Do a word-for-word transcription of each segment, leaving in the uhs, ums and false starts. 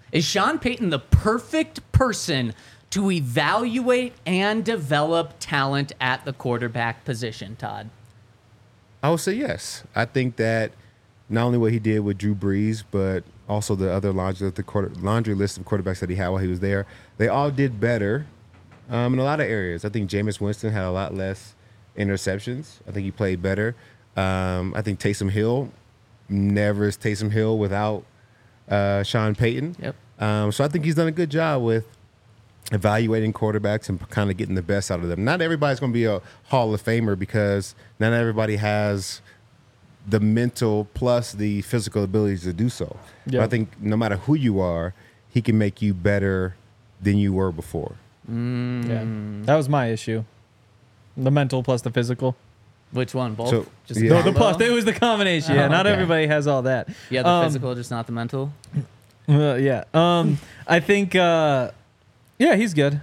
Is Sean Payton the perfect person to evaluate and develop talent at the quarterback position, Todd? I would say yes. I think that not only what he did with Drew Brees, but also the other laundry, the quarter, laundry list of quarterbacks that he had while he was there, they all did better um, in a lot of areas. I think Jameis Winston had a lot less interceptions. I think he played better. Um, I think Taysom Hill, never is Taysom Hill without uh, Sean Payton. Yep. Um, so I think he's done a good job with evaluating quarterbacks and kind of getting the best out of them. Not everybody's going to be a Hall of Famer because not everybody has the mental plus the physical abilities to do so. Yeah. But I think no matter who you are, he can make you better than you were before. Mm. Yeah, that was my issue. The mental plus the physical. Which one? Both? So, just yeah. No, the combo? plus. It was the combination. Yeah, Oh, not okay. everybody has all that. Yeah, the Um, physical, just not the mental. Uh, yeah. Um, I think. Uh, yeah, he's good.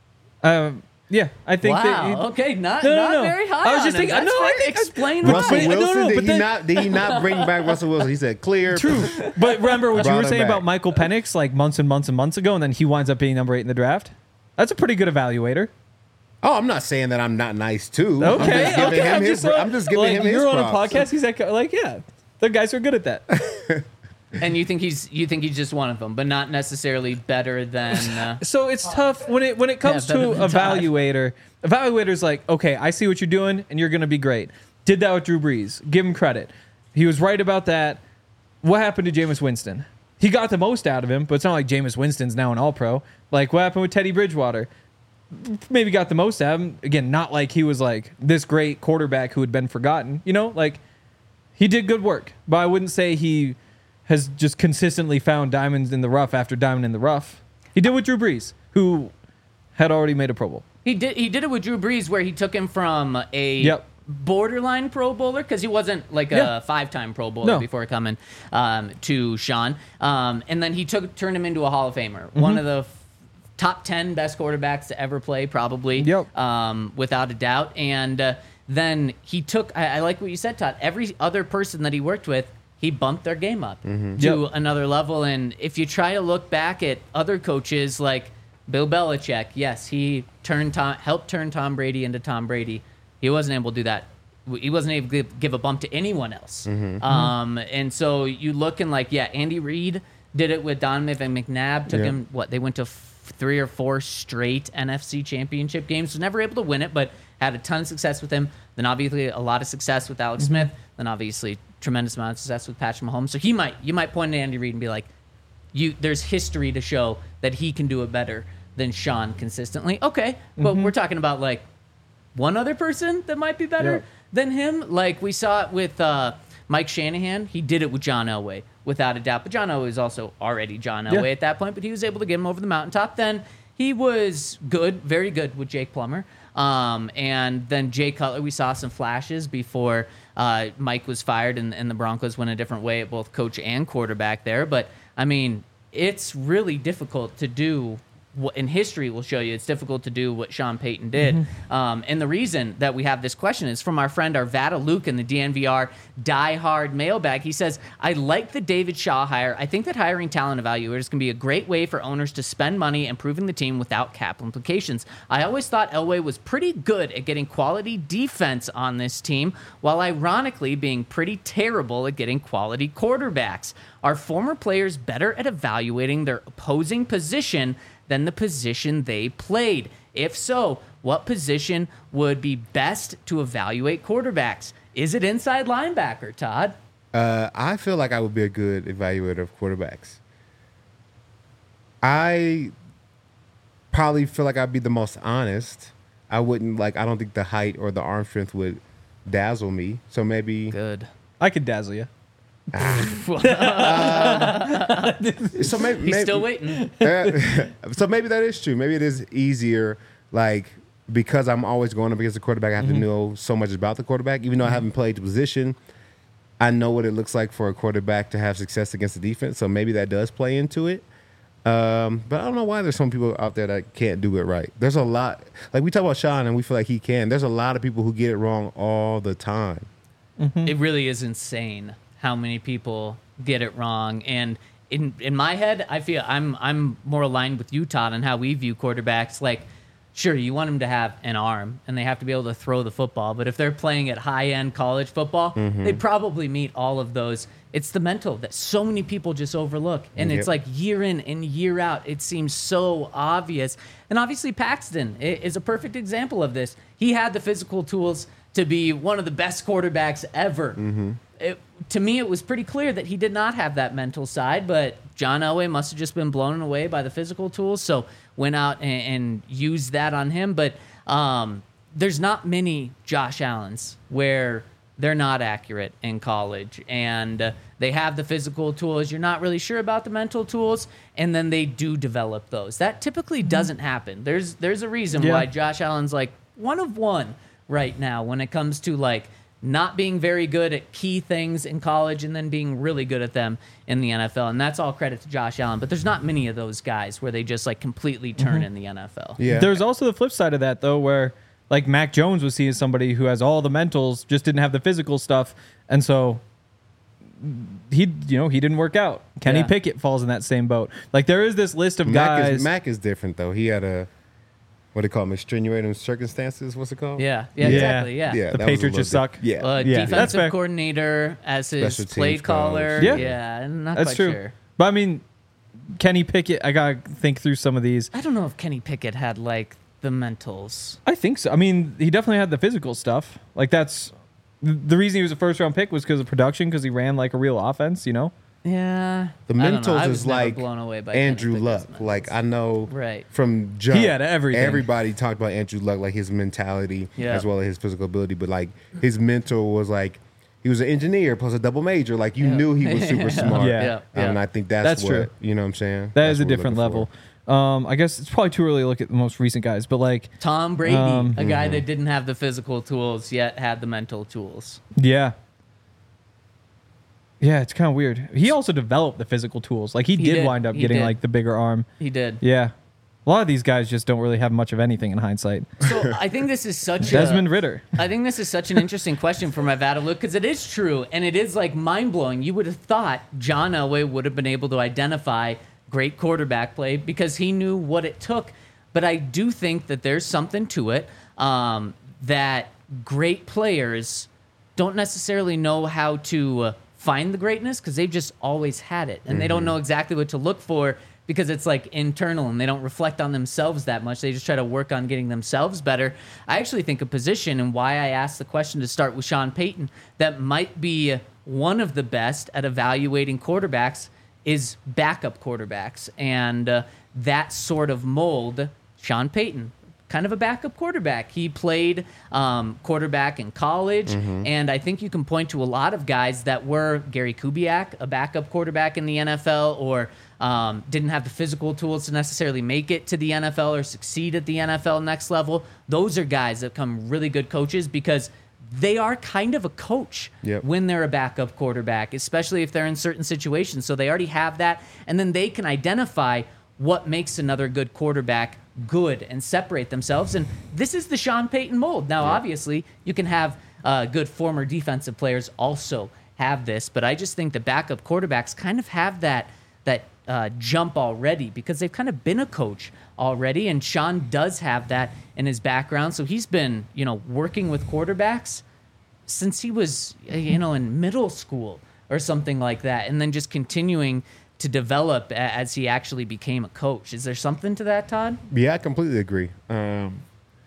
Um, yeah, I think. Wow. That he, okay, not No, no, not no. very high. I was on just him. thinking- That's no, I fair. think- Explain Russell why. wait, no, Wilson, no, did, but he then- not, did he not bring back Russell Wilson? He said clear. True. But remember what you Brought were him saying back. about Michael Penix like months and months and months ago, and then he winds up being number eight in the draft? That's a pretty good evaluator. Oh, I'm not saying that I'm not nice too. Okay, I'm just giving okay. him I'm his. just, uh, I'm just giving like, him his You're on a props. podcast. He's like, like, yeah, the guys are good at that. And you think he's you think he's just one of them, but not necessarily better than. Uh, So it's tough when it when it comes Yeah, better to than Todd. evaluator. Evaluator's like, okay, I see what you're doing, and you're going to be great. Did that with Drew Brees. Give him credit. He was right about that. What happened to Jameis Winston? He got the most out of him, but it's not like Jameis Winston's now an All-Pro. Like, what happened with Teddy Bridgewater? Maybe got the most out of him. Again, not like he was like this great quarterback who had been forgotten. You know, like he did good work, but I wouldn't say he has just consistently found diamonds in the rough after diamond in the rough. He did with Drew Brees, who had already made a Pro Bowl. he did he did it with Drew Brees, where he took him from a Yep. borderline Pro Bowler because he wasn't like a Yeah. five-time Pro Bowler No. before coming um, to Sean, um, and then he took turned him into a Hall of Famer, one of the f- top ten best quarterbacks to ever play, probably, Yep. um, without a doubt. And uh, then he took. I, I like what you said, Todd. Every other person that he worked with, he bumped their game up to Yep. another level. And if you try to look back at other coaches like Bill Belichick, yes, he turned Tom, helped turn Tom Brady into Tom Brady. He wasn't able to do that. He wasn't able to give, give a bump to anyone else. Um, and so you looking like, yeah, Andy Reid did it with Donovan McNabb. Took Yeah. him, what, they went to f- three or four straight N F C championship games. Was never able to win it, but had a ton of success with him. Then obviously a lot of success with Alex Smith. Then obviously tremendous amount of success with Patrick Mahomes. So he might, you might point at Andy Reid and be like, you, there's history to show that he can do it better than Sean consistently. Okay, but we're talking about like one other person that might be better Yeah. than him. Like we saw it with uh, Mike Shanahan. He did it with John Elway, without a doubt. But John Elway was also already John Elway Yeah. at that point, but he was able to get him over the mountaintop. Then he was good, very good with Jake Plummer. Um, and then Jay Cutler, we saw some flashes before uh, Mike was fired and, and the Broncos went a different way at both coach and quarterback there. But, I mean, it's really difficult to do what in history will show you it's difficult to do what Sean Payton did. Mm-hmm. Um, and the reason that we have this question is from our friend Arvada Luke in the D N V R Die Hard mailbag. He says, I like the David Shaw hire. I think that hiring talent evaluators can be a great way for owners to spend money improving the team without cap implications. I always thought Elway was pretty good at getting quality defense on this team, while ironically being pretty terrible at getting quality quarterbacks. Are former players better at evaluating their opposing position than the position they played? If so, what position would be best to evaluate quarterbacks? Is it inside linebacker, Todd? Uh, I feel like I would be a good evaluator of quarterbacks. I probably feel like I'd be the most honest. I wouldn't like. I don't think the height or the arm strength would dazzle me. So maybe. Good. I could dazzle you. So maybe. He's maybe still waiting. so maybe that is true. Maybe it is easier, like because I'm always going up against the quarterback. I have Mm-hmm. to know so much about the quarterback, even though I haven't played the position. I know what it looks like for a quarterback to have success against the defense. So maybe that does play into it. Um, but I don't know why there's some people out there that can't do it right. There's a lot, like we talk about Sean and we feel like he can. There's a lot of people who get it wrong all the time. It really is insane how many people get it wrong. And in in my head, I feel I'm I'm more aligned with you, Todd, on how we view quarterbacks. Like, sure, you want them to have an arm and they have to be able to throw the football, but if they're playing at high end college football, Mm-hmm. they probably meet all of those. It's the mental that so many people just overlook, and Yep. it's like year in and year out, it seems so obvious. And obviously, Paxton i- is a perfect example of this. He had the physical tools to be one of the best quarterbacks ever. Mm-hmm. It, to me, it was pretty clear that he did not have that mental side, but John Elway must have just been blown away by the physical tools, so went out and, and used that on him. But um, there's not many Josh Allens where they're not accurate in college, and uh, they have the physical tools. You're not really sure about the mental tools, and then they do develop those. That typically doesn't happen. There's there's a reason Yeah. why Josh Allen's like one of one right now when it comes to like not being very good at key things in college and then being really good at them in the N F L. And that's all credit to Josh Allen. But there's not many of those guys where they just like completely turn in the N F L. Yeah. There's also the flip side of that, though, where like Mac Jones was seeing somebody who has all the mentals, just didn't have the physical stuff, and so he, you know, he didn't work out. Kenny Yeah. Pickett falls in that same boat. Like there is this list of Mac guys. is, Mac is different though. He had a what do they call them? Extenuating circumstances. What's it called? Yeah, yeah, Yeah. exactly. Yeah. Yeah, The that was a Patriots little just suck. di- Yeah. Uh, Yeah, that's defensive fair. coordinator as his Special play teams caller. coach. Yeah. yeah, I'm not That's quite true. sure. But I mean, Kenny Pickett. I gotta think through some of these. I don't know if Kenny Pickett had like the mentals. I think so. I mean, he definitely had the physical stuff. Like that's the reason he was a first round pick was because of production, because he ran like a real offense. You know. Yeah, The I don't know. mentals I was is never like blown away by Andrew Kenny Luck. Pickett's Like mentals. I know Right. from jump, He had everything. Everybody talked about Andrew Luck, like his mentality Yeah. as well as his physical ability. But like his mental was like he was an engineer plus a double major. Like you Yeah. knew he was super smart. Yeah. Yeah, And yeah. I think that's, That's what true. you know what I'm saying. That That's is a what we're different looking level. for. Um, I guess it's probably too early to look at the most recent guys, but like, Tom Brady, Um, a guy that didn't have the physical tools yet had the mental tools. yeah. Yeah, it's kind of weird. He also developed the physical tools. Like he, He did, did. wind up He getting did. like the bigger arm. He did. Yeah. A lot of these guys just don't really have much of anything in hindsight. So I think this is such Desmond a. Ritter. I think this is such an interesting question for my Vada Luke because it is true and it is like mind blowing. You would have thought John Elway would have been able to identify great quarterback play because he knew what it took. But I do think that there's something to it um, that great players don't necessarily know how to uh, find the greatness because they've just always had it and they don't know exactly what to look for because it's like internal and they don't reflect on themselves that much. They just try to work on getting themselves better. I actually think a position and why I asked the question to start with Sean Payton that might be one of the best at evaluating quarterbacks is backup quarterbacks. And uh, that sort of mold, Sean Payton, kind of a backup quarterback. He played um, quarterback in college, and I think you can point to a lot of guys that were Gary Kubiak, a backup quarterback in the N F L, or um, didn't have the physical tools to necessarily make it to the N F L or succeed at the N F L next level. Those are guys that become really good coaches because they are kind of a coach Yep. when they're a backup quarterback, especially if they're in certain situations. So they already have that, and then they can identify what makes another good quarterback good and separate themselves. And this is the Sean Payton mold. Now, obviously, you can have uh, good former defensive players also have this, but I just think the backup quarterbacks kind of have that that uh, jump already because they've kind of been a coach already, and Sean does have that in his background. So he's been, you know, working with quarterbacks since he was, you know, in middle school or something like that, and then just continuing to develop a- as he actually became a coach. Is there something to that, Todd? Yeah, I completely agree. Um,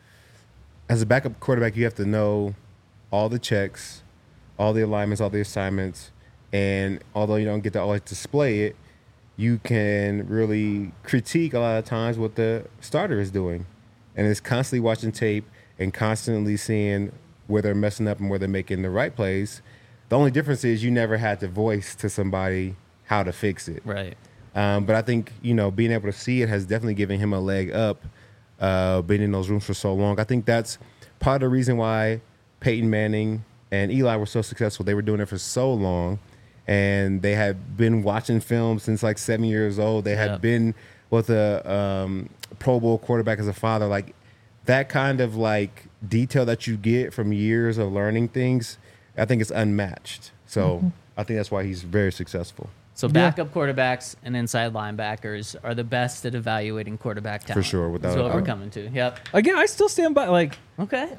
as a backup quarterback, you have to know all the checks, all the alignments, all the assignments, and although you don't get to always display it, you can really critique a lot of times what the starter is doing. And it's constantly watching tape and constantly seeing where they're messing up and where they're making the right plays. The only difference is you never had to voice to somebody how to fix it. Right. Um, but I think, you know, being able to see it has definitely given him a leg up, uh, being in those rooms for so long. I think that's part of the reason why Peyton Manning and Eli were so successful. They were doing it for so long, and they had been watching film since like seven years old. They had Yep. been with a um, Pro Bowl quarterback as a father. Like that kind of like detail that you get from years of learning things, I think it's unmatched. So I think that's why he's very successful. So backup quarterbacks and inside linebackers are the best at evaluating quarterback talent. sure, without That's a what we're doubt. coming to. Yep. Again, I still stand by, like, Okay.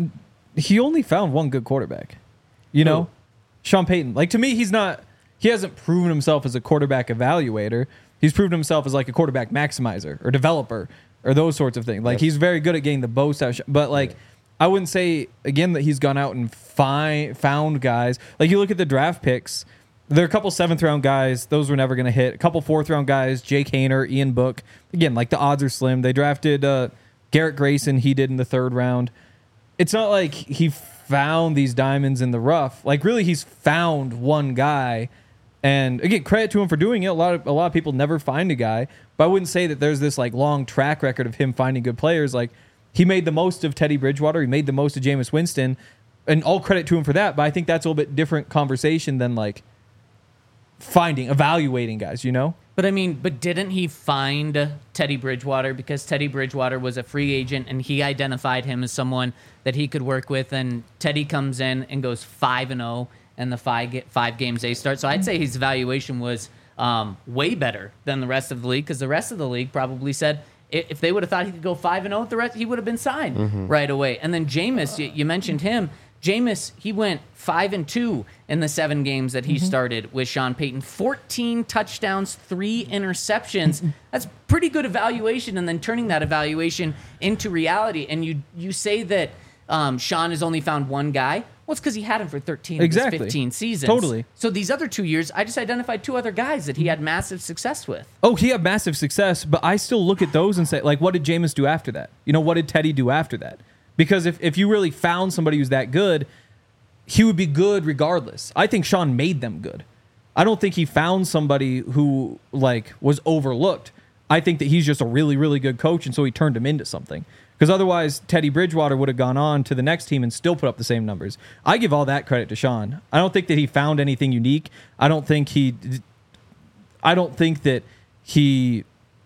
he only found one good quarterback. You know? Who? Sean Payton. Like, to me, he's not, he hasn't proven himself as a quarterback evaluator. He's proven himself as, like, a quarterback maximizer or developer or those sorts of things. Like, Yep. he's very good at getting the most out. But, like, Yeah. I wouldn't say, again, that he's gone out and find, found guys. Like, you look at the draft picks, there are a couple seventh round guys. Those were never going to hit. A couple fourth round guys, Jake Hayner, Ian Book. Again, like, the odds are slim. They drafted uh, Garrett Grayson. He did in the third round. It's not like he found these diamonds in the rough. Like, really, he's found one guy. And again, credit to him for doing it. A lot of a lot of people never find a guy, but I wouldn't say that there's this like long track record of him finding good players. Like, he made the most of Teddy Bridgewater. He made the most of Jameis Winston, and all credit to him for that. But I think that's a little bit different conversation than like finding, evaluating guys. You know? But I mean, but didn't he find Teddy Bridgewater because Teddy Bridgewater was a free agent and he identified him as someone that he could work with, and Teddy comes in and goes five and zero and the five ga- five games they start. So I'd say his evaluation was um, way better than the rest of the league, because the rest of the league probably said i- if they would have thought he could go five and zero with the rest, he would have been signed right away. And then Jameis, you, you mentioned him. Jameis, he went five and two in the seven games that he started with Sean Payton. fourteen touchdowns, three interceptions. That's pretty good evaluation. And then turning that evaluation into reality. And you you say that um, Sean has only found one guy. Well, it's because he had him for thirteen Exactly. of his fifteen seasons. Totally. So these other two years, I just identified two other guys that he had massive success with. Oh, he had massive success, but I still look at those and say, like, what did Jameis do after that? You know, what did Teddy do after that? Because if, if you really found somebody who's that good, he would be good regardless. I think Sean made them good. I don't think he found somebody who, like, was overlooked. I think that he's just a really, really good coach, and so he turned him into something. Because otherwise, Teddy Bridgewater would have gone on to the next team and still put up the same numbers. I give all that credit to Sean. I don't think that he found anything unique. I don't think he... I don't think that he...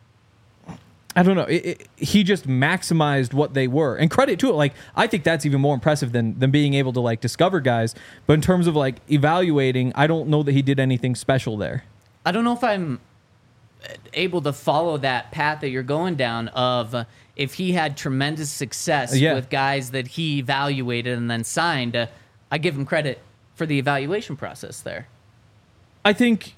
I don't know. It, it, he just maximized what they were, and credit to it. Like, I think that's even more impressive than than being able to like discover guys. But in terms of like evaluating, I don't know that he did anything special there. I don't know if I'm able to follow that path that you're going down of uh, if he had tremendous success Yeah. with guys that he evaluated and then signed. Uh, I give him credit for the evaluation process there. I think.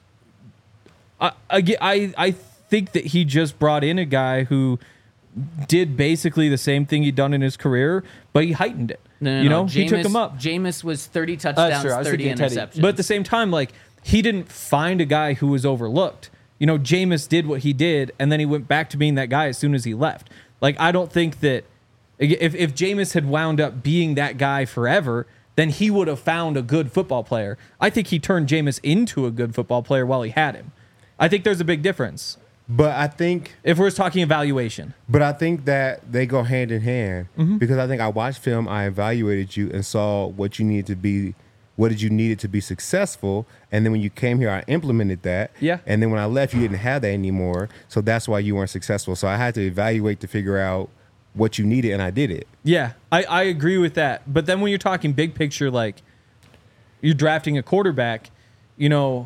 I I get- I I think that he just brought in a guy who did basically the same thing he'd done in his career, but he heightened it. No, no, you no. know, he took Jameis- him up. Jameis was thirty That's touchdowns, true. I was thirty thinking Teddy. interceptions. But at the same time, like, he didn't find a guy who was overlooked. You know, Jameis did what he did, and then he went back to being that guy as soon as he left. Like, I don't think that if if Jameis had wound up being that guy forever, then he would have found a good football player. I think he turned Jameis into a good football player while he had him. I think there's a big difference But I think if we're talking evaluation. But I think that they go hand in hand Mm-hmm. because I think I watched film, I evaluated you and saw what you needed to be, what did you needed to be successful, and then when you came here, I implemented that. Yeah. And then when I left, you didn't have that anymore, so that's why you weren't successful. So I had to evaluate to figure out what you needed, and I did it. Yeah, I, I agree with that. But then when you're talking big picture, like you're drafting a quarterback, you know,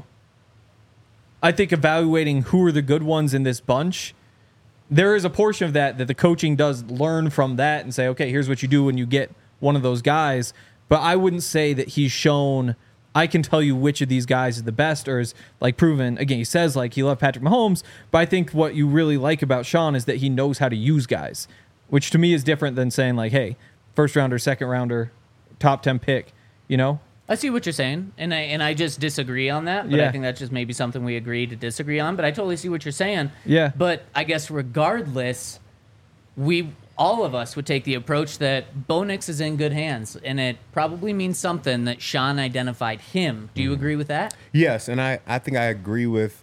I think evaluating who are the good ones in this bunch, there is a portion of that that the coaching does learn from that and say, okay, here's what you do when you get one of those guys. But I wouldn't say that he's shown, I can tell you which of these guys is the best or is like proven. Again, he says like he loved Patrick Mahomes, but I think what you really like about Sean is that he knows how to use guys, which to me is different than saying like, hey, first rounder, second rounder, top ten pick, you know? I see what you're saying, and I and I just disagree on that. But Yeah. I think that's just maybe something we agree to disagree on. But I totally see what you're saying. Yeah. But I guess regardless, we all of us would take the approach that Bo Nix is in good hands, and it probably means something that Sean identified him. Do you agree with that? Yes, and I, I think I agree with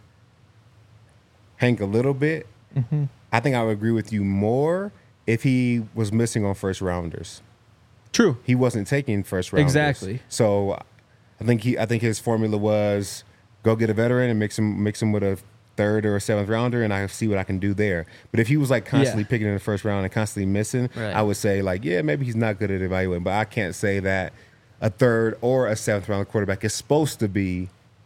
Hank a little bit. Mm-hmm. I think I would agree with you more if he was missing on first rounders. True. He wasn't taking first rounders. Exactly. So I think he I think his formula was go get a veteran and mix him mix him with a third or a seventh rounder, and I see what I can do there. But if he was like constantly Yeah. picking in the first round and constantly missing, Right. I would say like, yeah, maybe he's not good at evaluating. But I can't say that a third or a seventh round quarterback is supposed to be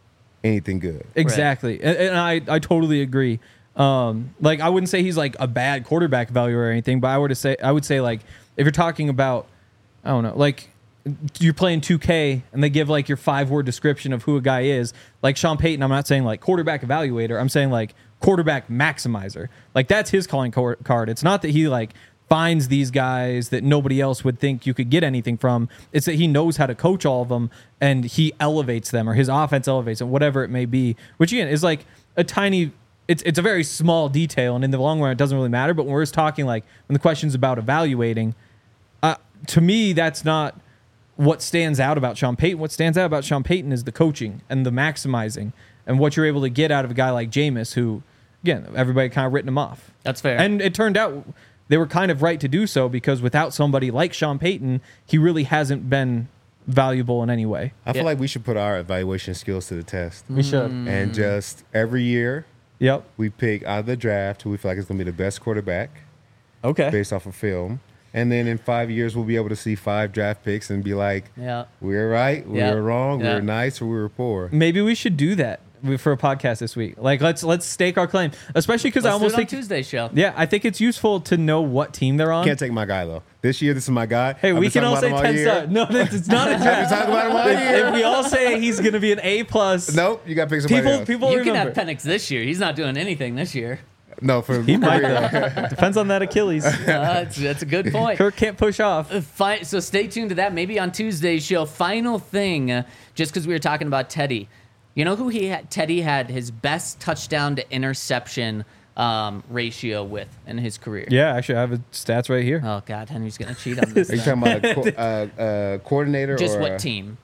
anything good. Exactly. And, and I, I totally agree. Um, like I wouldn't say he's like a bad quarterback value or anything, but I would say I would say like if you're talking about, I don't know, like you're playing two K and they give like your five word description of who a guy is, like Sean Payton. I'm not saying like quarterback evaluator. I'm saying like quarterback maximizer. Like that's his calling card. It's not that he like finds these guys that nobody else would think you could get anything from. It's that he knows how to coach all of them and he elevates them, or his offense elevates them, whatever it may be, which again is like a tiny, it's it's a very small detail, and in the long run it doesn't really matter. But when we're just talking like when the question's about evaluating, uh, to me that's not what stands out about Sean Payton. What stands out about Sean Payton is the coaching and the maximizing and what you're able to get out of a guy like Jameis, who, again, everybody kind of written him off. That's fair. And it turned out they were kind of right to do so, because without somebody like Sean Payton, he really hasn't been valuable in any way. I feel Yeah. like we should put our evaluation skills to the test. We should. And just every year, Yep. we pick out of the draft who we feel like is going to be the best quarterback Okay. based off of film. And then in five years, we'll be able to see five draft picks and be like, Yeah. we were right, we Yeah. were wrong, we Yeah. were nice, or we were poor. Maybe we should do that for a podcast this week. Like let's let's stake our claim, especially because I Let's do almost it on think Tuesday's show. yeah, I think it's useful to know what team they're on. Can't take my guy, though. This year, this is my guy. Hey, I've we been can talking all say about him ten year. stars. No, it's not a I've been talking about him all year. If we all say he's going to be an A plus, Nope, you got to pick somebody people else. people You remember. can have Penix this year. He's not doing anything this year. no, for He might career. though. Depends on that Achilles. Uh, that's, that's a good point. Kirk can't push off. Fi- so stay tuned to that. Maybe on Tuesday's show. Final thing, uh, just because we were talking about Teddy. You know who he had? Teddy had his best touchdown to interception um, ratio with in his career. Yeah, actually, I have his stats right here. Oh God, Henry's gonna cheat on this. Are you then. talking about a co- uh, uh, coordinator Just or what uh, team?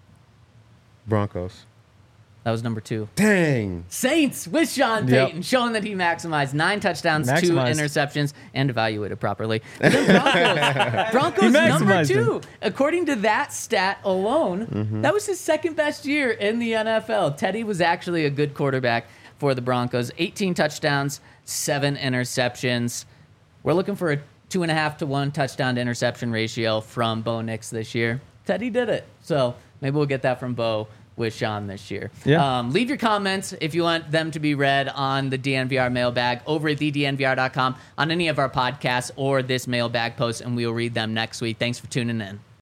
Broncos? That was number two. Dang. Saints with Sean Yep. Payton, showing that he maximized nine touchdowns, two Maximized. interceptions, and evaluated properly. And then Broncos, Broncos He number maximized two. According to that stat alone, that was his second best year in the N F L. Teddy was actually a good quarterback for the Broncos. eighteen touchdowns, seven interceptions. We're looking for a two and a half to one touchdown to interception ratio from Bo Nix this year. Teddy did it. So maybe we'll get that from Bo with Sean this year. Yeah. Um, leave your comments if you want them to be read on the D N V R mailbag over at the D N V R dot com on any of our podcasts or this mailbag post, and we will read them next week. Thanks for tuning in.